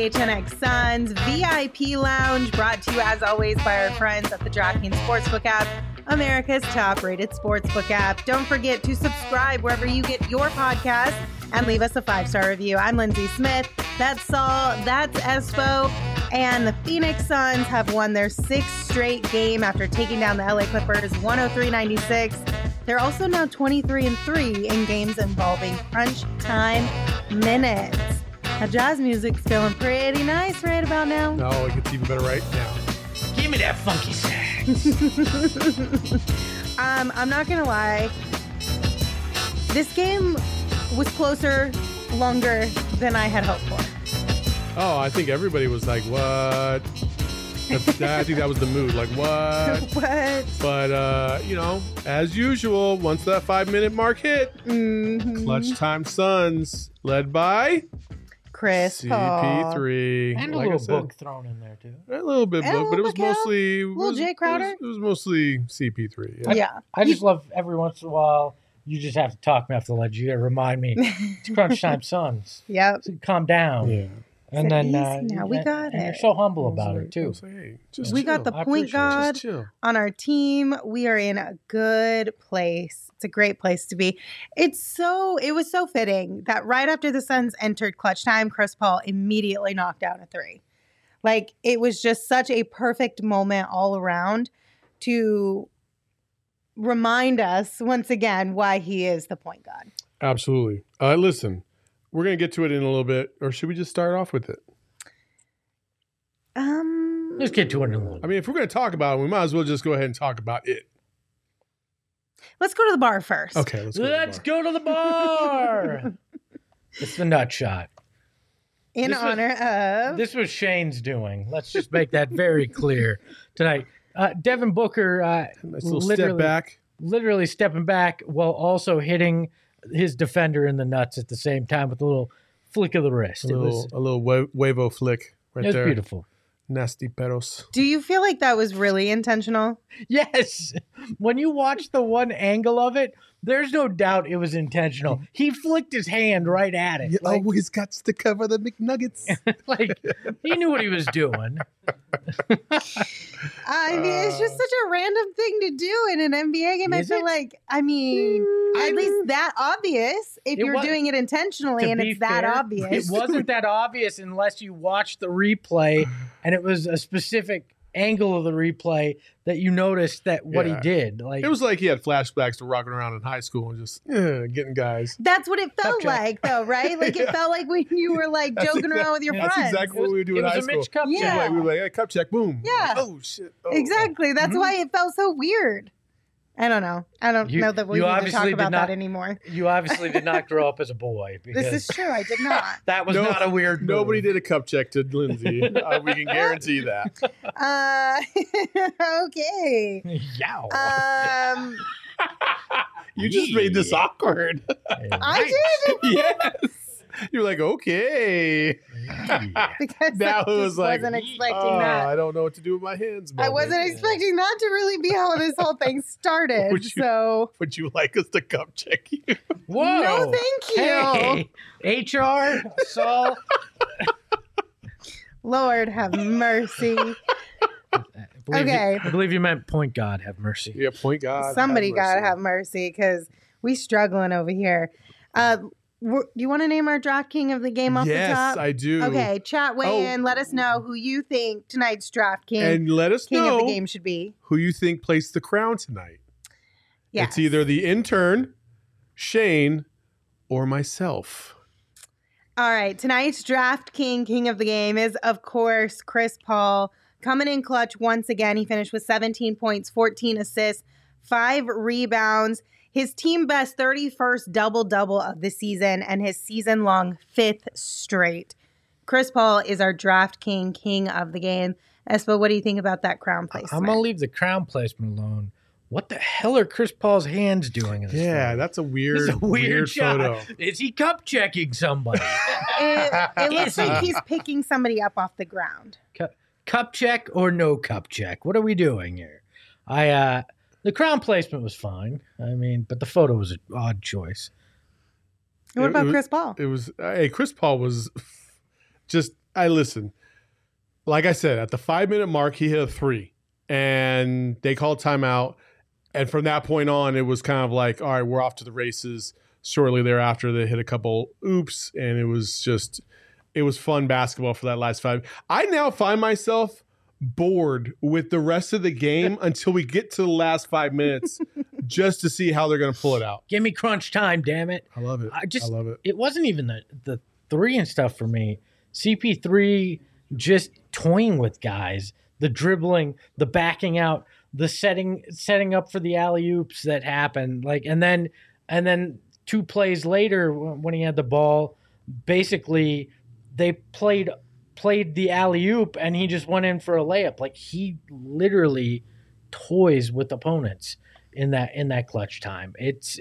PHNX Suns VIP Lounge, brought to you as always by our friends at the DraftKings Sportsbook app, America's top-rated sportsbook app. Don't forget to subscribe wherever you get your podcast and leave us a 5-star review. I'm Lindsay Smith. That's Saul. That's Espo. And the Phoenix Suns have won their 6th straight game after taking down the LA Clippers 103-96. They're also now 23-3 in games involving crunch time minutes. Now, jazz music's feeling pretty nice right about now. No, it gets even better right now. Give me that funky sax. I'm not going to lie. This game was closer, longer than I had hoped for. Oh, I think everybody was like, what? I think that was the mood. Like, what? What? But, as usual, once that 5-minute mark hit, Clutch Time Suns, led by Chris CP3. And a little book thrown in there, too. A little bit book, but it was mostly... Little Jay Crowder? It was mostly CP3. Yeah. I just love every once in a while, you just have to talk me off the ledge. You got to remind me, it's Crunch Time Suns. Yep. So calm down. Yeah. And then now we got and it. you're so humble about it, too. Hey, We got the point guard on our team. We are in a good place. It's a great place to be. It was so fitting that right after the Suns entered clutch time, Chris Paul immediately knocked down a 3. Like, it was just such a perfect moment all around to remind us once again why he is the point guard. Absolutely. Listen, we're going to get to it in a little bit, or should we just start off with it? Let's get to it in a little bit. I mean, if we're going to talk about it, we might as well just go ahead and talk about it. Let's go to the bar first. Okay, Let's go to the bar. It's the nut shot. This was Shane's doing. Let's just make that very clear tonight. Devin Booker Nice little step back. Literally stepping back while also hitting his defender in the nuts at the same time with a little flick of the wrist. A little wavo flick right there. It was beautiful. Nasty pedos. Do you feel like that was really intentional? Yes. When you watch the one angle of it, there's no doubt it was intentional. He flicked his hand right at it. You always got to cover the McNuggets. Like, he knew what he was doing. I mean, it's just such a random thing to do in an NBA game. I feel like, at least that obvious if you're doing it intentionally and it's that obvious. It wasn't that obvious unless you watched the replay and it was a specific angle of the replay that you noticed that what he did. Like, it was like he had flashbacks to rocking around in high school and just getting guys. That's what it felt like, though, right? Like, it felt like when you were like joking around with your friends. That's exactly what we would do in high school. It was a Mitch Cup check. Yeah. We were like, hey, cup check, boom. Yeah. Oh, shit. Oh, exactly. That's why it felt so weird. I don't know. I don't know that we need to talk about that anymore. You obviously did not grow up as a boy. This is true. I did not. That was not a weird move. Nobody did a cup check to Lindsay. We can guarantee that. Okay. Yow. You just made this awkward. I did? Yes. You're like, okay. Because now I it was like, wasn't expecting that. I don't know what to do with my hands. I wasn't expecting that to really be how this whole thing started. Would you like us to cup check you? Whoa. No, thank you. Hey, HR, Saul. Lord have mercy. I believe you meant point God have mercy. Yeah, point God. Somebody got to have mercy because we struggling over here. Do you want to name our draft king of the game off the top? Yes, I do. Okay, chat weigh in. Let us know who you think tonight's draft king and let us know of the game should be. Who you think placed the crown tonight. Yes. It's either the intern, Shane, or myself. All right, tonight's draft king of the game is, of course, Chris Paul. Coming in clutch once again. He finished with 17 points, 14 assists, 5 rebounds. His team best 31st double-double of the season and his season-long 5th straight. Chris Paul is our draft king of the game. Espo, what do you think about that crown placement? I'm going to leave the crown placement alone. What the hell are Chris Paul's hands doing in this photo? That's a weird shot. Photo. Is he cup checking somebody? It looks like he's picking somebody up off the ground. Cup check or no cup check? What are we doing here? The crown placement was fine. I mean, but the photo was an odd choice. What about Chris Paul? Chris Paul was just I listen. Like I said, at the 5-minute mark, he hit a 3, and they called timeout. And from that point on, it was kind of like, all right, we're off to the races. Shortly thereafter, they hit a couple oops, and it was fun basketball for that last 5. I now find myself bored with the rest of the game until we get to the last 5 minutes just to see how they're going to pull it out. Give me crunch time, damn it. I love it. I love it. It wasn't even the 3 and stuff for me. CP3 just toying with guys, the dribbling, the backing out, the setting up for the alley-oops that happened. And then 2 plays later when he had the ball, basically they played the alley-oop and he just went in for a layup. Like, he literally toys with opponents in that clutch time. It's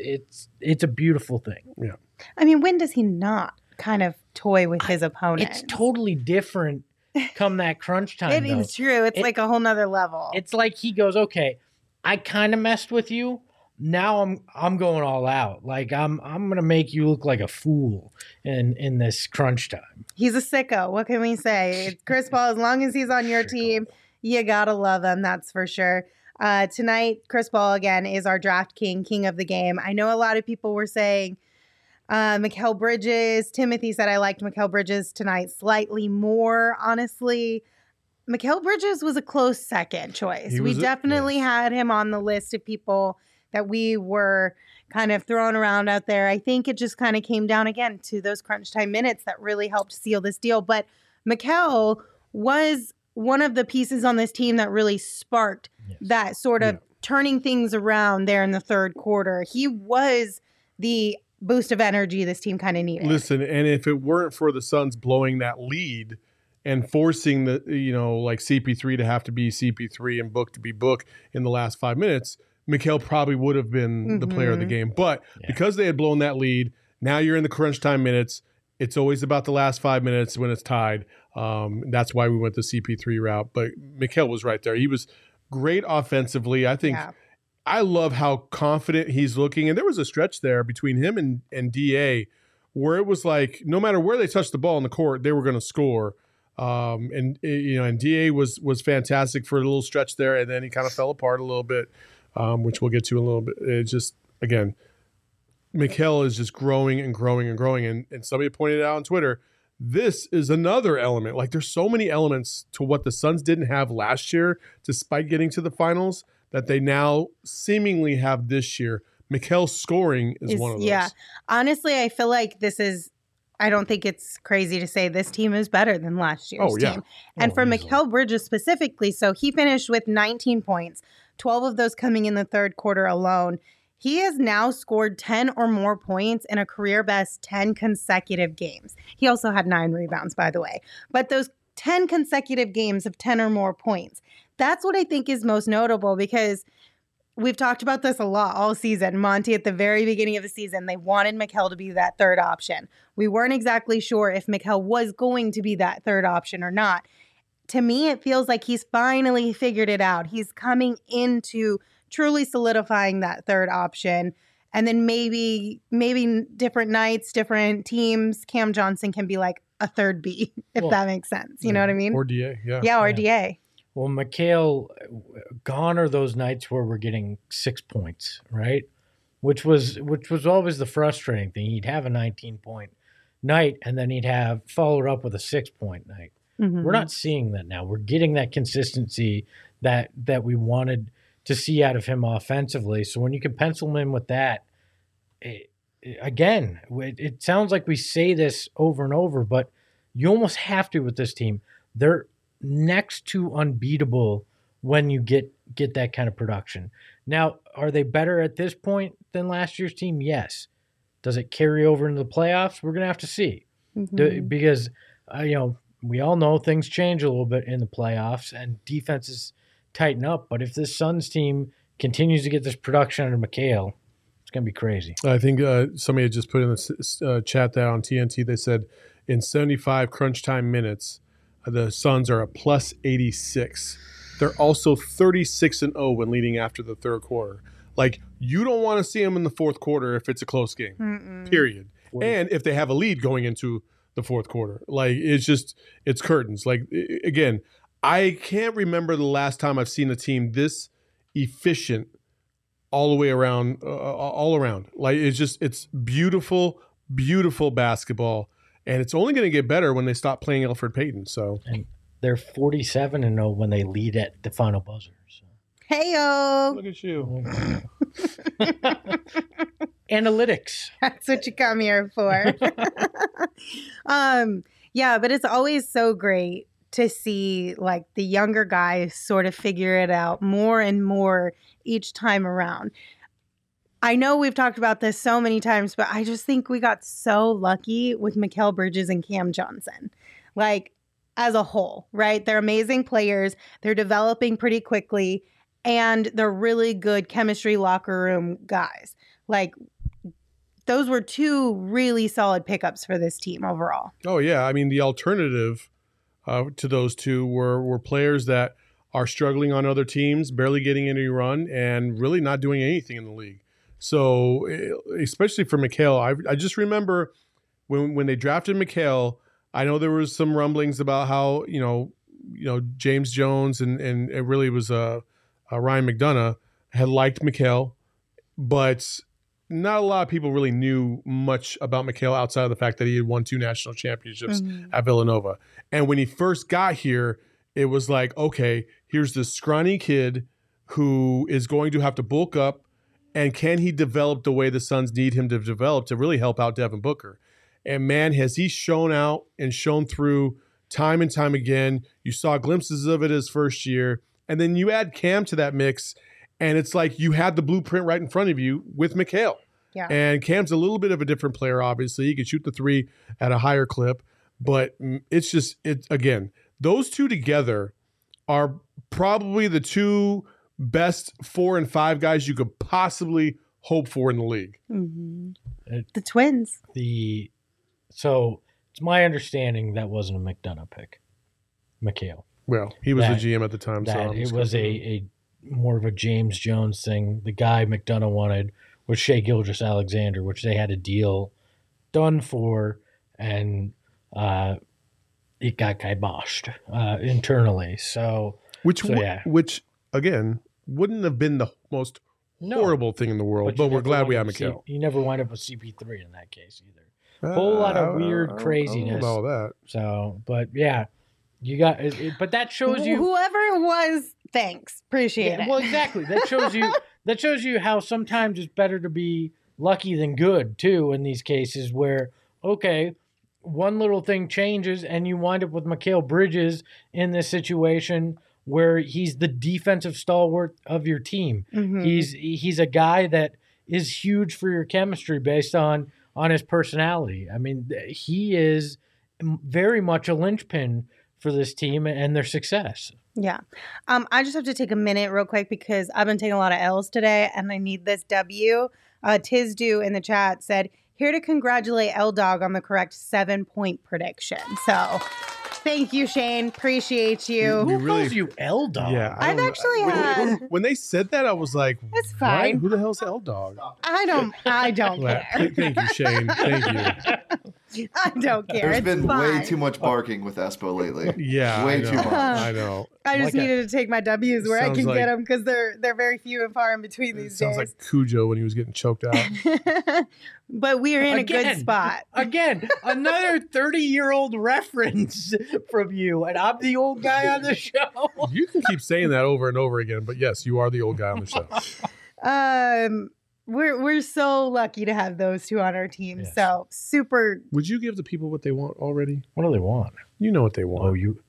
a beautiful thing. Yeah. I mean, when does he not kind of toy with his opponent? It's totally different come that crunch time. It is true. It's like a whole nother level. It's like he goes, okay, I kind of messed with you. Now I'm going all out. Like, I'm gonna make you look like a fool in this crunch time. He's a sicko. What can we say? It's Chris Paul, as long as he's on your team, you gotta love him. That's for sure. Tonight, Chris Paul again is our draft king of the game. I know a lot of people were saying Mikal Bridges. Timothy said I liked Mikal Bridges tonight slightly more. Honestly, Mikal Bridges was a close second choice. We definitely had him on the list of people that we were kind of throwing around out there. I think it just kind of came down again to those crunch time minutes that really helped seal this deal. But Mikal was one of the pieces on this team that really sparked that sort of turning things around there in the third quarter. He was the boost of energy this team kind of needed. Listen, and if it weren't for the Suns blowing that lead and forcing the, like CP3 to have to be CP3 and Book to be Book in the last 5 minutes, Mikal probably would have been the player of the game. But because they had blown that lead, now you're in the crunch time minutes. It's always about the last 5 minutes when it's tied. That's why we went the CP3 route. But Mikal was right there. He was great offensively. I think I love how confident he's looking. And there was a stretch there between him and DA where it was like no matter where they touched the ball in the court, they were going to score. And DA was fantastic for a little stretch there, and then he kind of fell apart a little bit. Which we'll get to in a little bit. It's just, again, Mikal is just growing and growing and growing. And somebody pointed out on Twitter, this is another element. Like, there's so many elements to what the Suns didn't have last year, despite getting to the finals, that they now seemingly have this year. Mikal's scoring is one of those. Yeah. Honestly, I feel like I don't think it's crazy to say this team is better than last year's team. And for Mikal Bridges specifically, so he finished with 19 points. 12 of those coming in the third quarter alone. He has now scored 10 or more points in a career best 10 consecutive games. He also had 9 rebounds, by the way. But those 10 consecutive games of 10 or more points, that's what I think is most notable, because we've talked about this a lot all season. Monty, at the very beginning of the season, they wanted Mikal to be that third option. We weren't exactly sure if Mikal was going to be that third option or not. To me, it feels like he's finally figured it out. He's coming into truly solidifying that third option. And then maybe different nights, different teams, Cam Johnson can be like a third B, if that makes sense. You know what I mean? Or DA, or DA. Well, Mikal, gone are those nights where we're getting 6 points, right? Which was always the frustrating thing. He'd have a 19-point night, and then he'd have followed up with a 6-point night. Mm-hmm. We're not seeing that now. We're getting that consistency that we wanted to see out of him offensively. So when you can pencil him in with that, it sounds like we say this over and over, but you almost have to with this team. They're next to unbeatable when you get that kind of production. Now, are they better at this point than last year's team? Yes. Does it carry over into the playoffs? We're going to have to see. Mm-hmm. Because, we all know things change a little bit in the playoffs and defenses tighten up. But if this Suns team continues to get this production under Mikal, it's going to be crazy. I think somebody had just put in the chat that on TNT, they said in 75 crunch time minutes, the Suns are a plus 86. They're also 36-0 when leading after the third quarter. Like, you don't want to see them in the fourth quarter if it's a close game, period. And if they have a lead going into the fourth quarter. Like it's curtains. Like again, I can't remember the last time I've seen a team this efficient all the way around, all around. Like it's beautiful, beautiful basketball, and it's only going to get better when they stop playing Elfrid Payton. So And they're 47-0 when they lead at the final buzzer. So. Heyo. look at you. Analytics. That's what you come here for. Yeah, but it's always so great to see like the younger guys sort of figure it out more and more each time around. I know we've talked about this so many times, but I just think we got so lucky with Mikal Bridges and Cam Johnson. Like as a whole, right? They're amazing players. They're developing pretty quickly, and they're really good chemistry locker room guys. Like those were two really solid pickups for this team overall. Oh yeah, I mean the alternative to those two were players that are struggling on other teams, barely getting any run, and really not doing anything in the league. So especially for Mikal, I just remember when they drafted Mikal, I know there was some rumblings about how James Jones and it really was Ryan McDonough had liked Mikal, but not a lot of people really knew much about Mikal outside of the fact that he had won 2 national championships at Villanova. And when he first got here, it was like, okay, here's this scrawny kid who is going to have to bulk up, and can he develop the way the Suns need him to develop to really help out Devin Booker? And man, has he shown out and shown through time and time again. You saw glimpses of it his first year. And then you add Cam to that mix, and it's like you had the blueprint right in front of you with Mikal. Yeah. And Cam's a little bit of a different player, obviously. He can shoot the three at a higher clip. But it's again, those two together are probably the two best 4 and 5 guys you could possibly hope for in the league. Mm-hmm. The twins. So it's my understanding that wasn't a McDonough pick, Mikal. Well, he was the GM at the time. That so it was a more of a James Jones thing. The guy McDonough wanted was Shai Gilgeous-Alexander, which they had a deal done for, and it got kiboshed internally. Which again wouldn't have been the most horrible thing in the world, but we're glad we have Mikal. You never wind up with CP3 in that case either. Whole lot of weird craziness. I don't know about that. So, but yeah, you got it. But that shows you whoever it was. Thanks, appreciate it. Well, exactly. That shows you. That shows you how sometimes it's better to be lucky than good too. In these cases, where one little thing changes and you wind up with Mikal Bridges in this situation where he's the defensive stalwart of your team. Mm-hmm. He's a guy that is huge for your chemistry based on his personality. I mean, he is very much a linchpin for this team and their success. Yeah. I just have to take a minute real quick because I've been taking a lot of L's today and I need this W. Tizdu in the chat said, here to congratulate L-Dog on the correct 7-point prediction. So thank you, Shane. Appreciate you. Who calls you L-Dog? Yeah, I've actually had. When they said that, I was like, "It's fine. Who the hell's L-Dog?" I don't care. Thank you, Shane. Thank you. I don't care. There's been way too much barking with Espo lately. Yeah, way too much. I know. I just needed to take my W's where I can get them because they're very few and far in between these days. Sounds like Cujo when he was getting choked out. But we are in a good spot. Again, another 30-year-old reference from you, and I'm the old guy on the show. You can keep saying that over and over again, but yes, you are the old guy on the show. We're so lucky to have those two on our team. Yes. So super. Would you give the people what they want already? What do they want? You know what they want. Oh, you.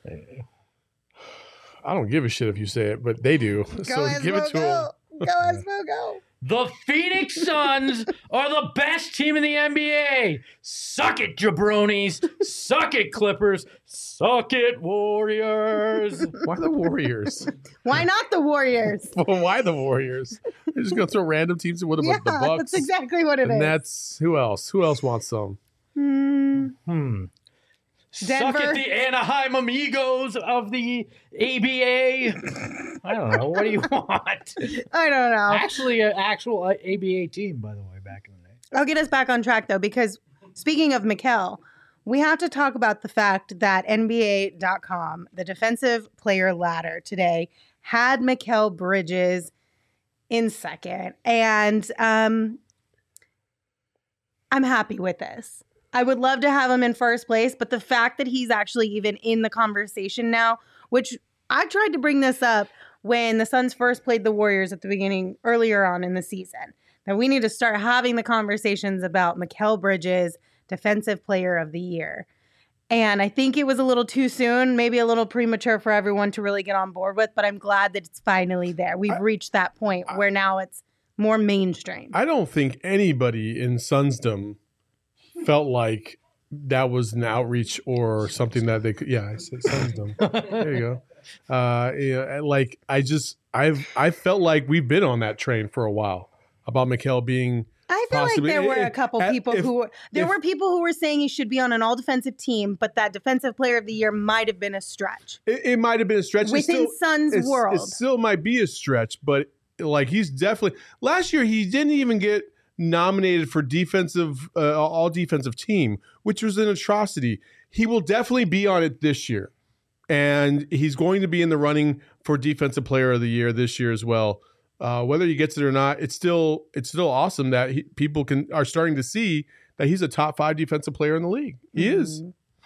I don't give a shit if you say it, but they do. So give it to them. Go Espo, go. The Phoenix Suns are the best team in the NBA. Suck it, jabronis. Suck it, Clippers. Suck it, Warriors. Why the Warriors? Why not the Warriors? Well, why the Warriors? They're just going to throw random teams in with them, the Bucks. That's exactly what it is. And that's, who else? Who else wants some? Denver. Suck it, the Anaheim Amigos of the ABA. I don't know. What do you want? I don't know. Actually, an actual ABA team, by the way, back in the day. I'll get us back on track, though, because speaking of Mikal, we have to talk about the fact that NBA.com, the defensive player ladder today, had Mikal Bridges in second. And I'm happy with this. I would love to have him in first place, but the fact that he's actually even in the conversation now, which I tried to bring this up when the Suns first played the Warriors at the beginning, earlier on in the season, that we need to start having the conversations about Mikal Bridges, Defensive Player of the Year. And I think it was a little too soon, maybe a little premature for everyone to really get on board with, but I'm glad that it's finally there. We've reached that point where now it's more mainstream. I don't think anybody in Sunsdom felt like that was an outreach or something that they could. Yeah, I said Sunsdom. There you go. Like I felt like we've been on that train for a while about Mikal being. I feel like there were a couple people who were saying he should be on an all defensive team, but that Defensive Player of the Year might have been a stretch. It might have been a stretch within Suns world. It still might be a stretch, but like he's definitely. Last year he didn't even get nominated for defensive all defensive team, which was an atrocity. He will definitely be on it this year, and he's going to be in the running for Defensive Player of the Year this year as well. Whether he gets it or not, it's still awesome that people are starting to see that he's a top 5 defensive player in the league. He is.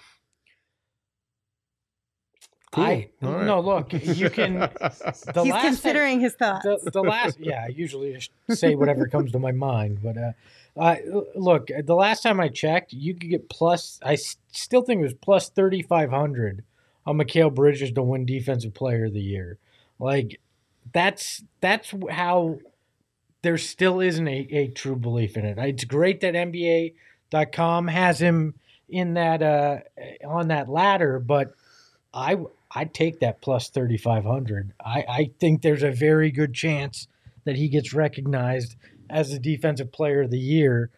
Cool. Right. No, look, you can. He's considering his thoughts. I usually just say whatever comes to my mind. But look, the last time I checked, you could get I still think it was plus 3,500 on Mikal Bridges to win Defensive Player of the Year. Like, that's how there still isn't a true belief in it. It's great that NBA.com has him in that on that ladder, but I'd take that plus 3,500. I think there's a very good chance that he gets recognized as the Defensive Player of the Year.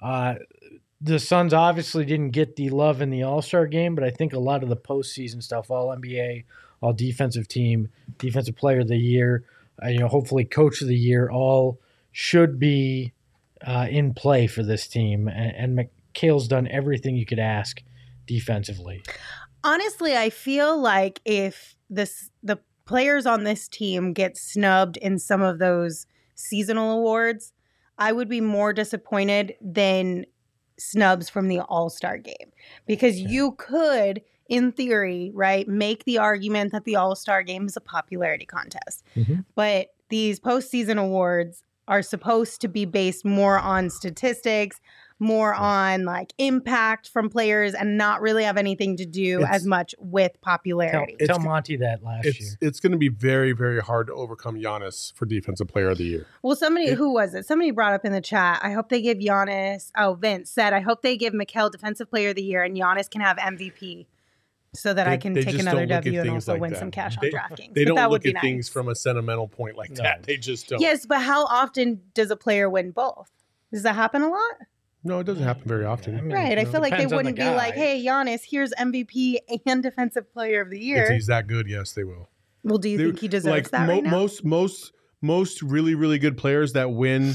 The Suns obviously didn't get the love in the All-Star game, but I think a lot of the postseason stuff, All-NBA, All-Defensive Team, Defensive Player of the Year, hopefully Coach of the Year, all should be in play for this team. And Mikal's done everything you could ask defensively. Honestly, I feel like if the players on this team get snubbed in some of those seasonal awards, I would be more disappointed than snubs from the All-Star game. Because you could, in theory, right, make the argument that the All-Star game is a popularity contest. Mm-hmm. But these postseason awards are supposed to be based more on statistics, more on like impact from players, and not really have anything to do as much with popularity. Tell Monty that last year. It's going to be very, very hard to overcome Giannis for Defensive Player of the Year. Well, who was it? Somebody brought up in the chat, I hope they give Giannis, Vince said, I hope they give Mikal Defensive Player of the Year and Giannis can have MVP so that I can take another W and also win some cash on DraftKings. They don't look at things from a sentimental point like that. They just don't. Yes, but how often does a player win both? Does that happen a lot? No, it doesn't happen very often. I feel like they wouldn't be like, hey, Giannis, here's MVP and Defensive Player of the Year. If he's that good, yes, they will. Well, do you think he deserves that right now? Most really, really good players that win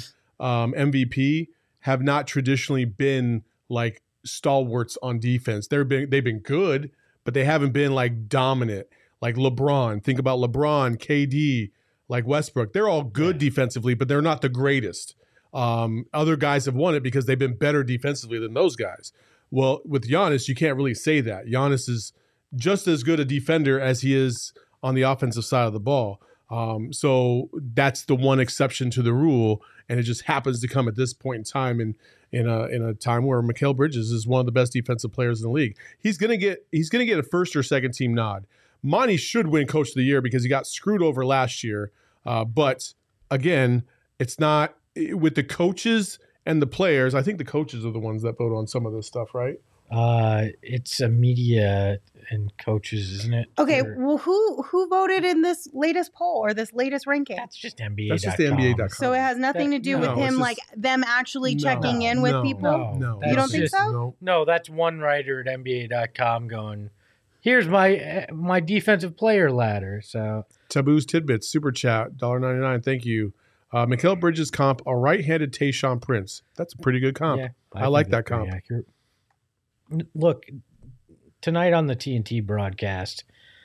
MVP have not traditionally been like stalwarts on defense. They've been good, but they haven't been like dominant. Like LeBron. Think about LeBron, KD, like Westbrook. They're all good defensively, but they're not the greatest. Other guys have won it because they've been better defensively than those guys. Well, with Giannis, you can't really say that. Giannis is just as good a defender as he is on the offensive side of the ball. So that's the one exception to the rule, and it just happens to come at this point in time in a time where Mikal Bridges is one of the best defensive players in the league. He's gonna get a first or second team nod. Monty should win Coach of the Year because he got screwed over last year. But again, it's not. With the coaches and the players, I think the coaches are the ones that vote on some of this stuff, right? It's a media and coaches, isn't it? Okay, well, who voted in this latest poll or this latest ranking? That's just NBA.com. That's just the NBA.com. So it has nothing to do with him, like them actually checking in with people? No. You don't think so? No, that's one writer at NBA.com going, here's my defensive player ladder. So Taboo's Tidbits, Super Chat, $1.99, thank you. Mikal Bridges comp, a right-handed Tayshaun Prince. That's a pretty good comp. Yeah, I like that comp. look, tonight on the TNT broadcast,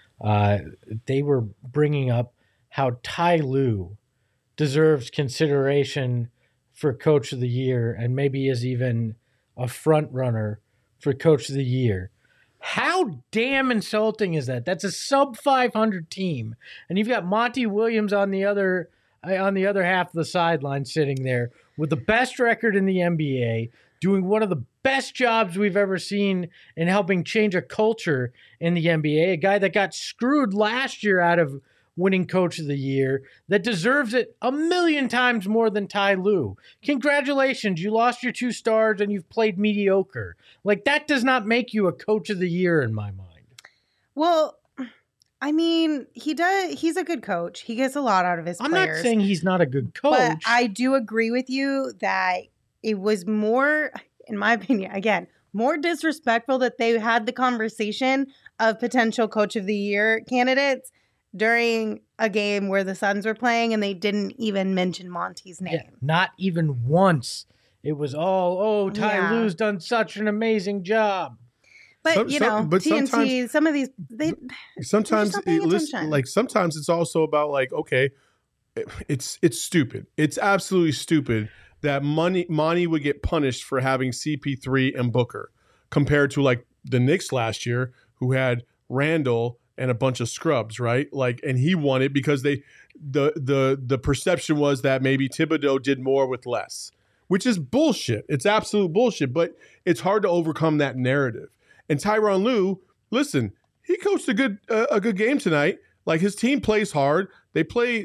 they were bringing up how Ty Lue deserves consideration for Coach of the Year and maybe is even a front runner for Coach of the Year. How damn insulting is that? That's a sub 500 team, and you've got Monty Williams on the other half of the sideline sitting there with the best record in the NBA, doing one of the best jobs we've ever seen in helping change a culture in the NBA, a guy that got screwed last year out of winning Coach of the Year, that deserves it a million times more than Ty Lue. Congratulations, you lost your 2 stars and you've played mediocre. Like, that does not make you a Coach of the Year in my mind. Well, I mean, he does. He's a good coach. He gets a lot out of his players. I'm not saying he's not a good coach. But I do agree with you that it was more, in my opinion, again, more disrespectful that they had the conversation of potential Coach of the Year candidates during a game where the Suns were playing and they didn't even mention Monty's name. Yeah, not even once. It was all, Ty Lue's done such an amazing job. But TNT, some of these, sometimes it's also about like, okay, it's stupid. It's absolutely stupid that Monty would get punished for having CP3 and Booker compared to like the Knicks last year, who had Randall and a bunch of scrubs, right? Like, and he won it because the perception was that maybe Thibodeau did more with less, which is bullshit. It's absolute bullshit, but it's hard to overcome that narrative. And Tyronn Lue, listen, he coached a good game tonight. Like, his team plays hard. They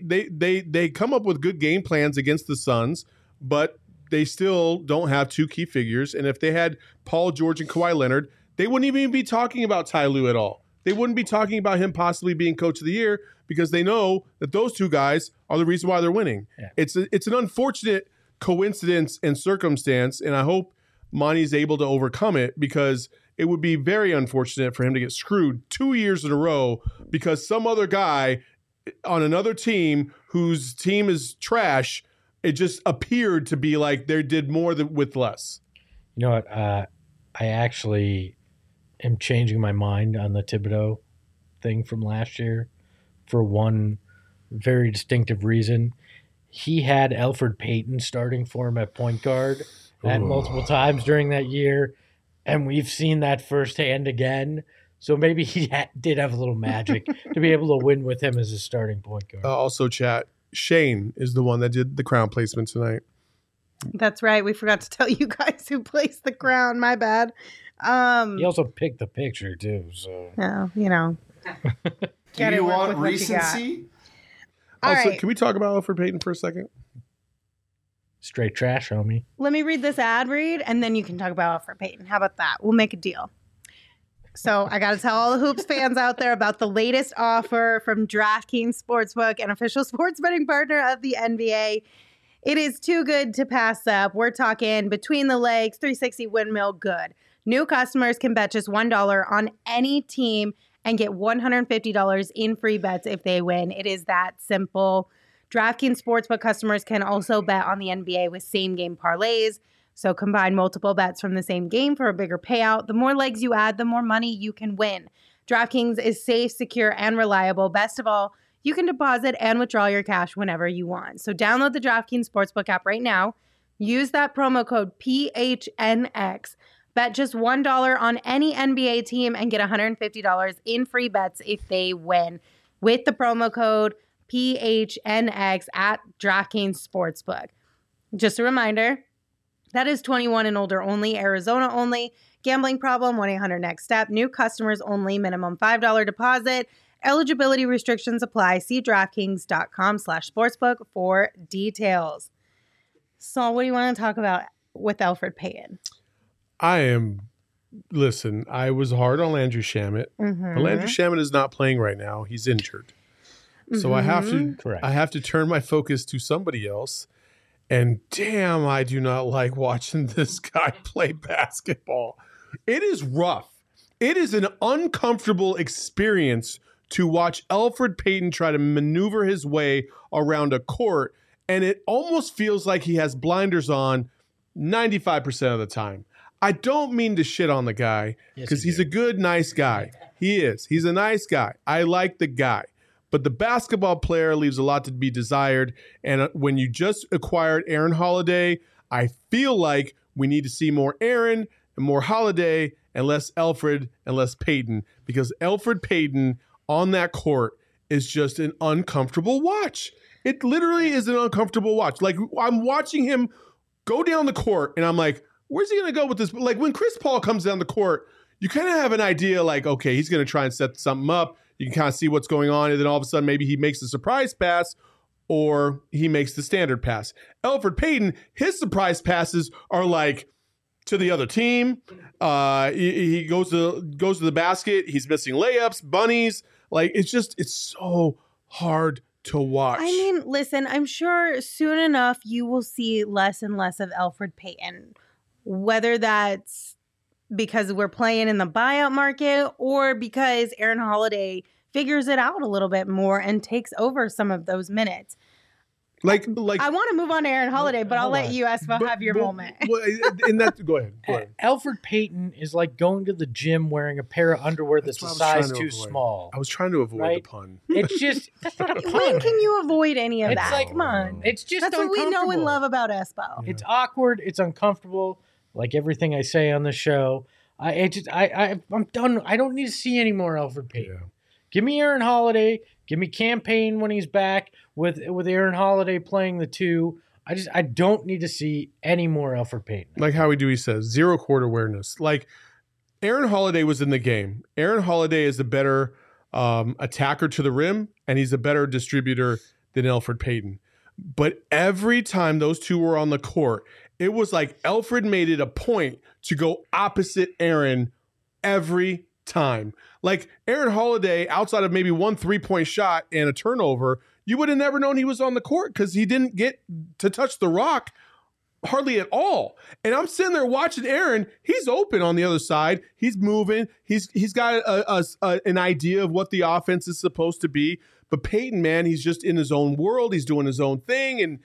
come up with good game plans against the Suns, but they still don't have 2 key figures. And if they had Paul George and Kawhi Leonard, they wouldn't even be talking about Ty Lue at all. They wouldn't be talking about him possibly being Coach of the Year because they know that those 2 guys are the reason why they're winning. Yeah. It's an unfortunate coincidence and circumstance, and I hope Monty's able to overcome it, because it would be very unfortunate for him to get screwed 2 years in a row because some other guy on another team whose team is trash, it just appeared to be like they did more with less. You know what? I actually am changing my mind on the Thibodeau thing from last year for one very distinctive reason. He had Elfrid Payton starting for him at point guard at multiple times during that year, and we've seen that firsthand again. So maybe he did have a little magic to be able to win with him as a starting point guard. Also, chat, Shane is the one that did the crown placement tonight. That's right. We forgot to tell you guys who placed the crown. My bad. He also picked the picture too. So you know. Do you want recency? Also, right. Can we talk about Elfrid Payton for a second? Straight trash, homie. Let me read this ad read, and then you can talk about Elfrid Payton. How about that? We'll make a deal. So I got to tell all the Hoops fans out there about the latest offer from DraftKings Sportsbook, an official sports betting partner of the NBA. It is too good to pass up. We're talking between the legs, 360 windmill good. New customers can bet just $1 on any team and get $150 in free bets if they win. It is that simple. DraftKings Sportsbook customers can also bet on the NBA with same-game parlays. So combine multiple bets from the same game for a bigger payout. The more legs you add, the more money you can win. DraftKings is safe, secure, and reliable. Best of all, you can deposit and withdraw your cash whenever you want. So download the DraftKings Sportsbook app right now. Use that promo code PHNX. Bet just $1 on any NBA team and get $150 in free bets if they win with the promo code PHNX at DraftKings Sportsbook. Just a reminder, that is 21 and older only, Arizona only. Gambling problem, 1-800-NEXT-STEP. New customers only, minimum $5 deposit. Eligibility restrictions apply. See DraftKings.com/sportsbook for details. So what do you want to talk about with Elfrid Payton? Listen, I was hard on Landry Shamet. But Landry Shamet is not playing right now. He's injured. So I have to turn my focus to somebody else. And damn, I do not like watching this guy play basketball. It is rough. It is an uncomfortable experience to watch Elfrid Payton try to maneuver his way around a court. And it almost feels like he has blinders on 95% of the time. I don't mean to shit on the guy because he's a good, nice guy. He is. He's a nice guy. I like the guy. But the basketball player leaves a lot to be desired. And when you just acquired Aaron Holiday, I feel like we need to see more Aaron and more Holiday and less Elfrid and less Payton, because Elfrid Payton on that court is just an uncomfortable watch. It literally is an uncomfortable watch. Like, I'm watching him go down the court and I'm like, where's he going to go with this? Like, when Chris Paul comes down the court, you kind of have an idea like, okay, he's going to try and set something up. You can kind of see what's going on. And then all of a sudden, maybe he makes a surprise pass or he makes the standard pass. Elfrid Payton, his surprise passes are like to the other team. He goes to the basket. He's missing layups, bunnies. Like, it's so hard to watch. I mean, listen, I'm sure soon enough you will see less and less of Elfrid Payton, whether that's because we're playing in the buyout market or because Aaron Holiday figures it out a little bit more and takes over some of those minutes. Like I want to move on to Aaron Holiday, but I'll let you, Espo, have your moment. Go ahead. Elfrid Payton is like going to the gym wearing a pair of underwear that's a size too small. I was trying to avoid the pun. It's just, that's not a pun. When can you avoid any of that? Like, come on. It's just that's what we know and love about Espo. Yeah. It's awkward. It's uncomfortable. Like everything I say on the show. I'm done. I don't need to see any more Elfrid Payton. Yeah. Give me Aaron Holiday. Give me Cam Payne when he's back with Aaron Holiday playing the two. I don't need to see any more Elfrid Payton. Like Howie Dewey says, zero court awareness. Like, Aaron Holiday was in the game. Aaron Holiday is a better attacker to the rim, and he's a better distributor than Elfrid Payton. But every time those two were on the court, it was like Elfrid made it a point to go opposite Aaron every time. Like, Aaron Holiday, outside of maybe one 3-point shot and a turnover, you would have never known he was on the court because he didn't get to touch the rock hardly at all. And I'm sitting there watching Aaron. He's open on the other side. He's moving. He's got an idea of what the offense is supposed to be. But Payton, man, he's just in his own world. He's doing his own thing, and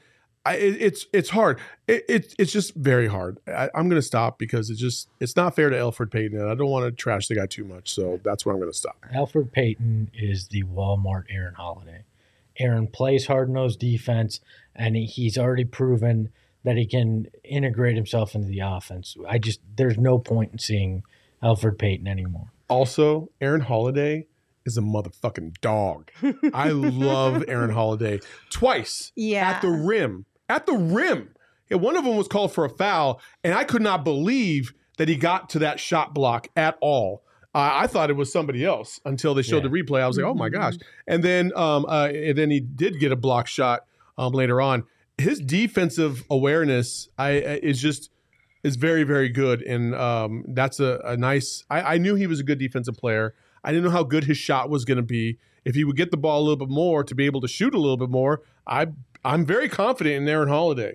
it's hard. It's just very hard. I'm going to stop because it's not fair to Elfrid Payton, and I don't want to trash the guy too much. So that's where I'm going to stop. Elfrid Payton is the Walmart Aaron Holiday. Aaron plays hard-nosed defense, and he's already proven that he can integrate himself into the offense. There's no point in seeing Elfrid Payton anymore. Also, Aaron Holiday is a motherfucking dog. I love Aaron Holiday. Twice at the rim. At the rim. Yeah, one of them was called for a foul, and I could not believe that he got to that shot block at all. I thought it was somebody else until they showed the replay. I was like, oh my gosh. And then he did get a block shot later on. His defensive awareness is very, very good. And that's a nice, I knew he was a good defensive player. I didn't know how good his shot was going to be. If he would get the ball a little bit more to be able to shoot a little bit more, I'm very confident in Aaron Holiday.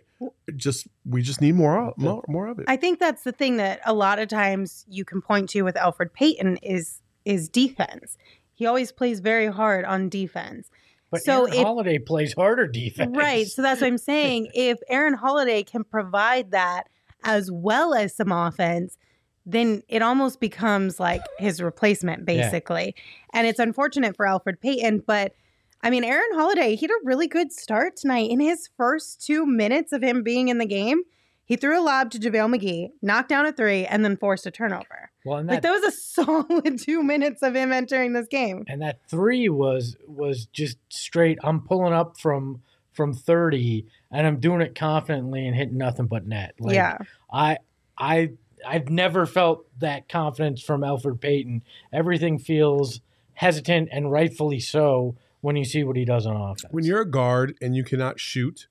We just need more of it. I think that's the thing that a lot of times you can point to with Elfrid Payton is defense. He always plays very hard on defense. But Aaron Holiday plays harder defense. Right. So that's what I'm saying. If Aaron Holiday can provide that as well as some offense, then it almost becomes like his replacement, basically. Yeah. And it's unfortunate for Elfrid Payton, but I mean, Aaron Holiday, he had a really good start tonight. In his first 2 minutes of him being in the game, he threw a lob to JaVale McGee, knocked down a three, and then forced a turnover. Well, and that was a solid 2 minutes of him entering this game. And that three was just straight, I'm pulling up from 30, and I'm doing it confidently and hitting nothing but net. Like, yeah. I've never felt that confidence from Elfrid Payton. Everything feels hesitant, and rightfully so, when you see what he does on offense. When you're a guard and you cannot shoot,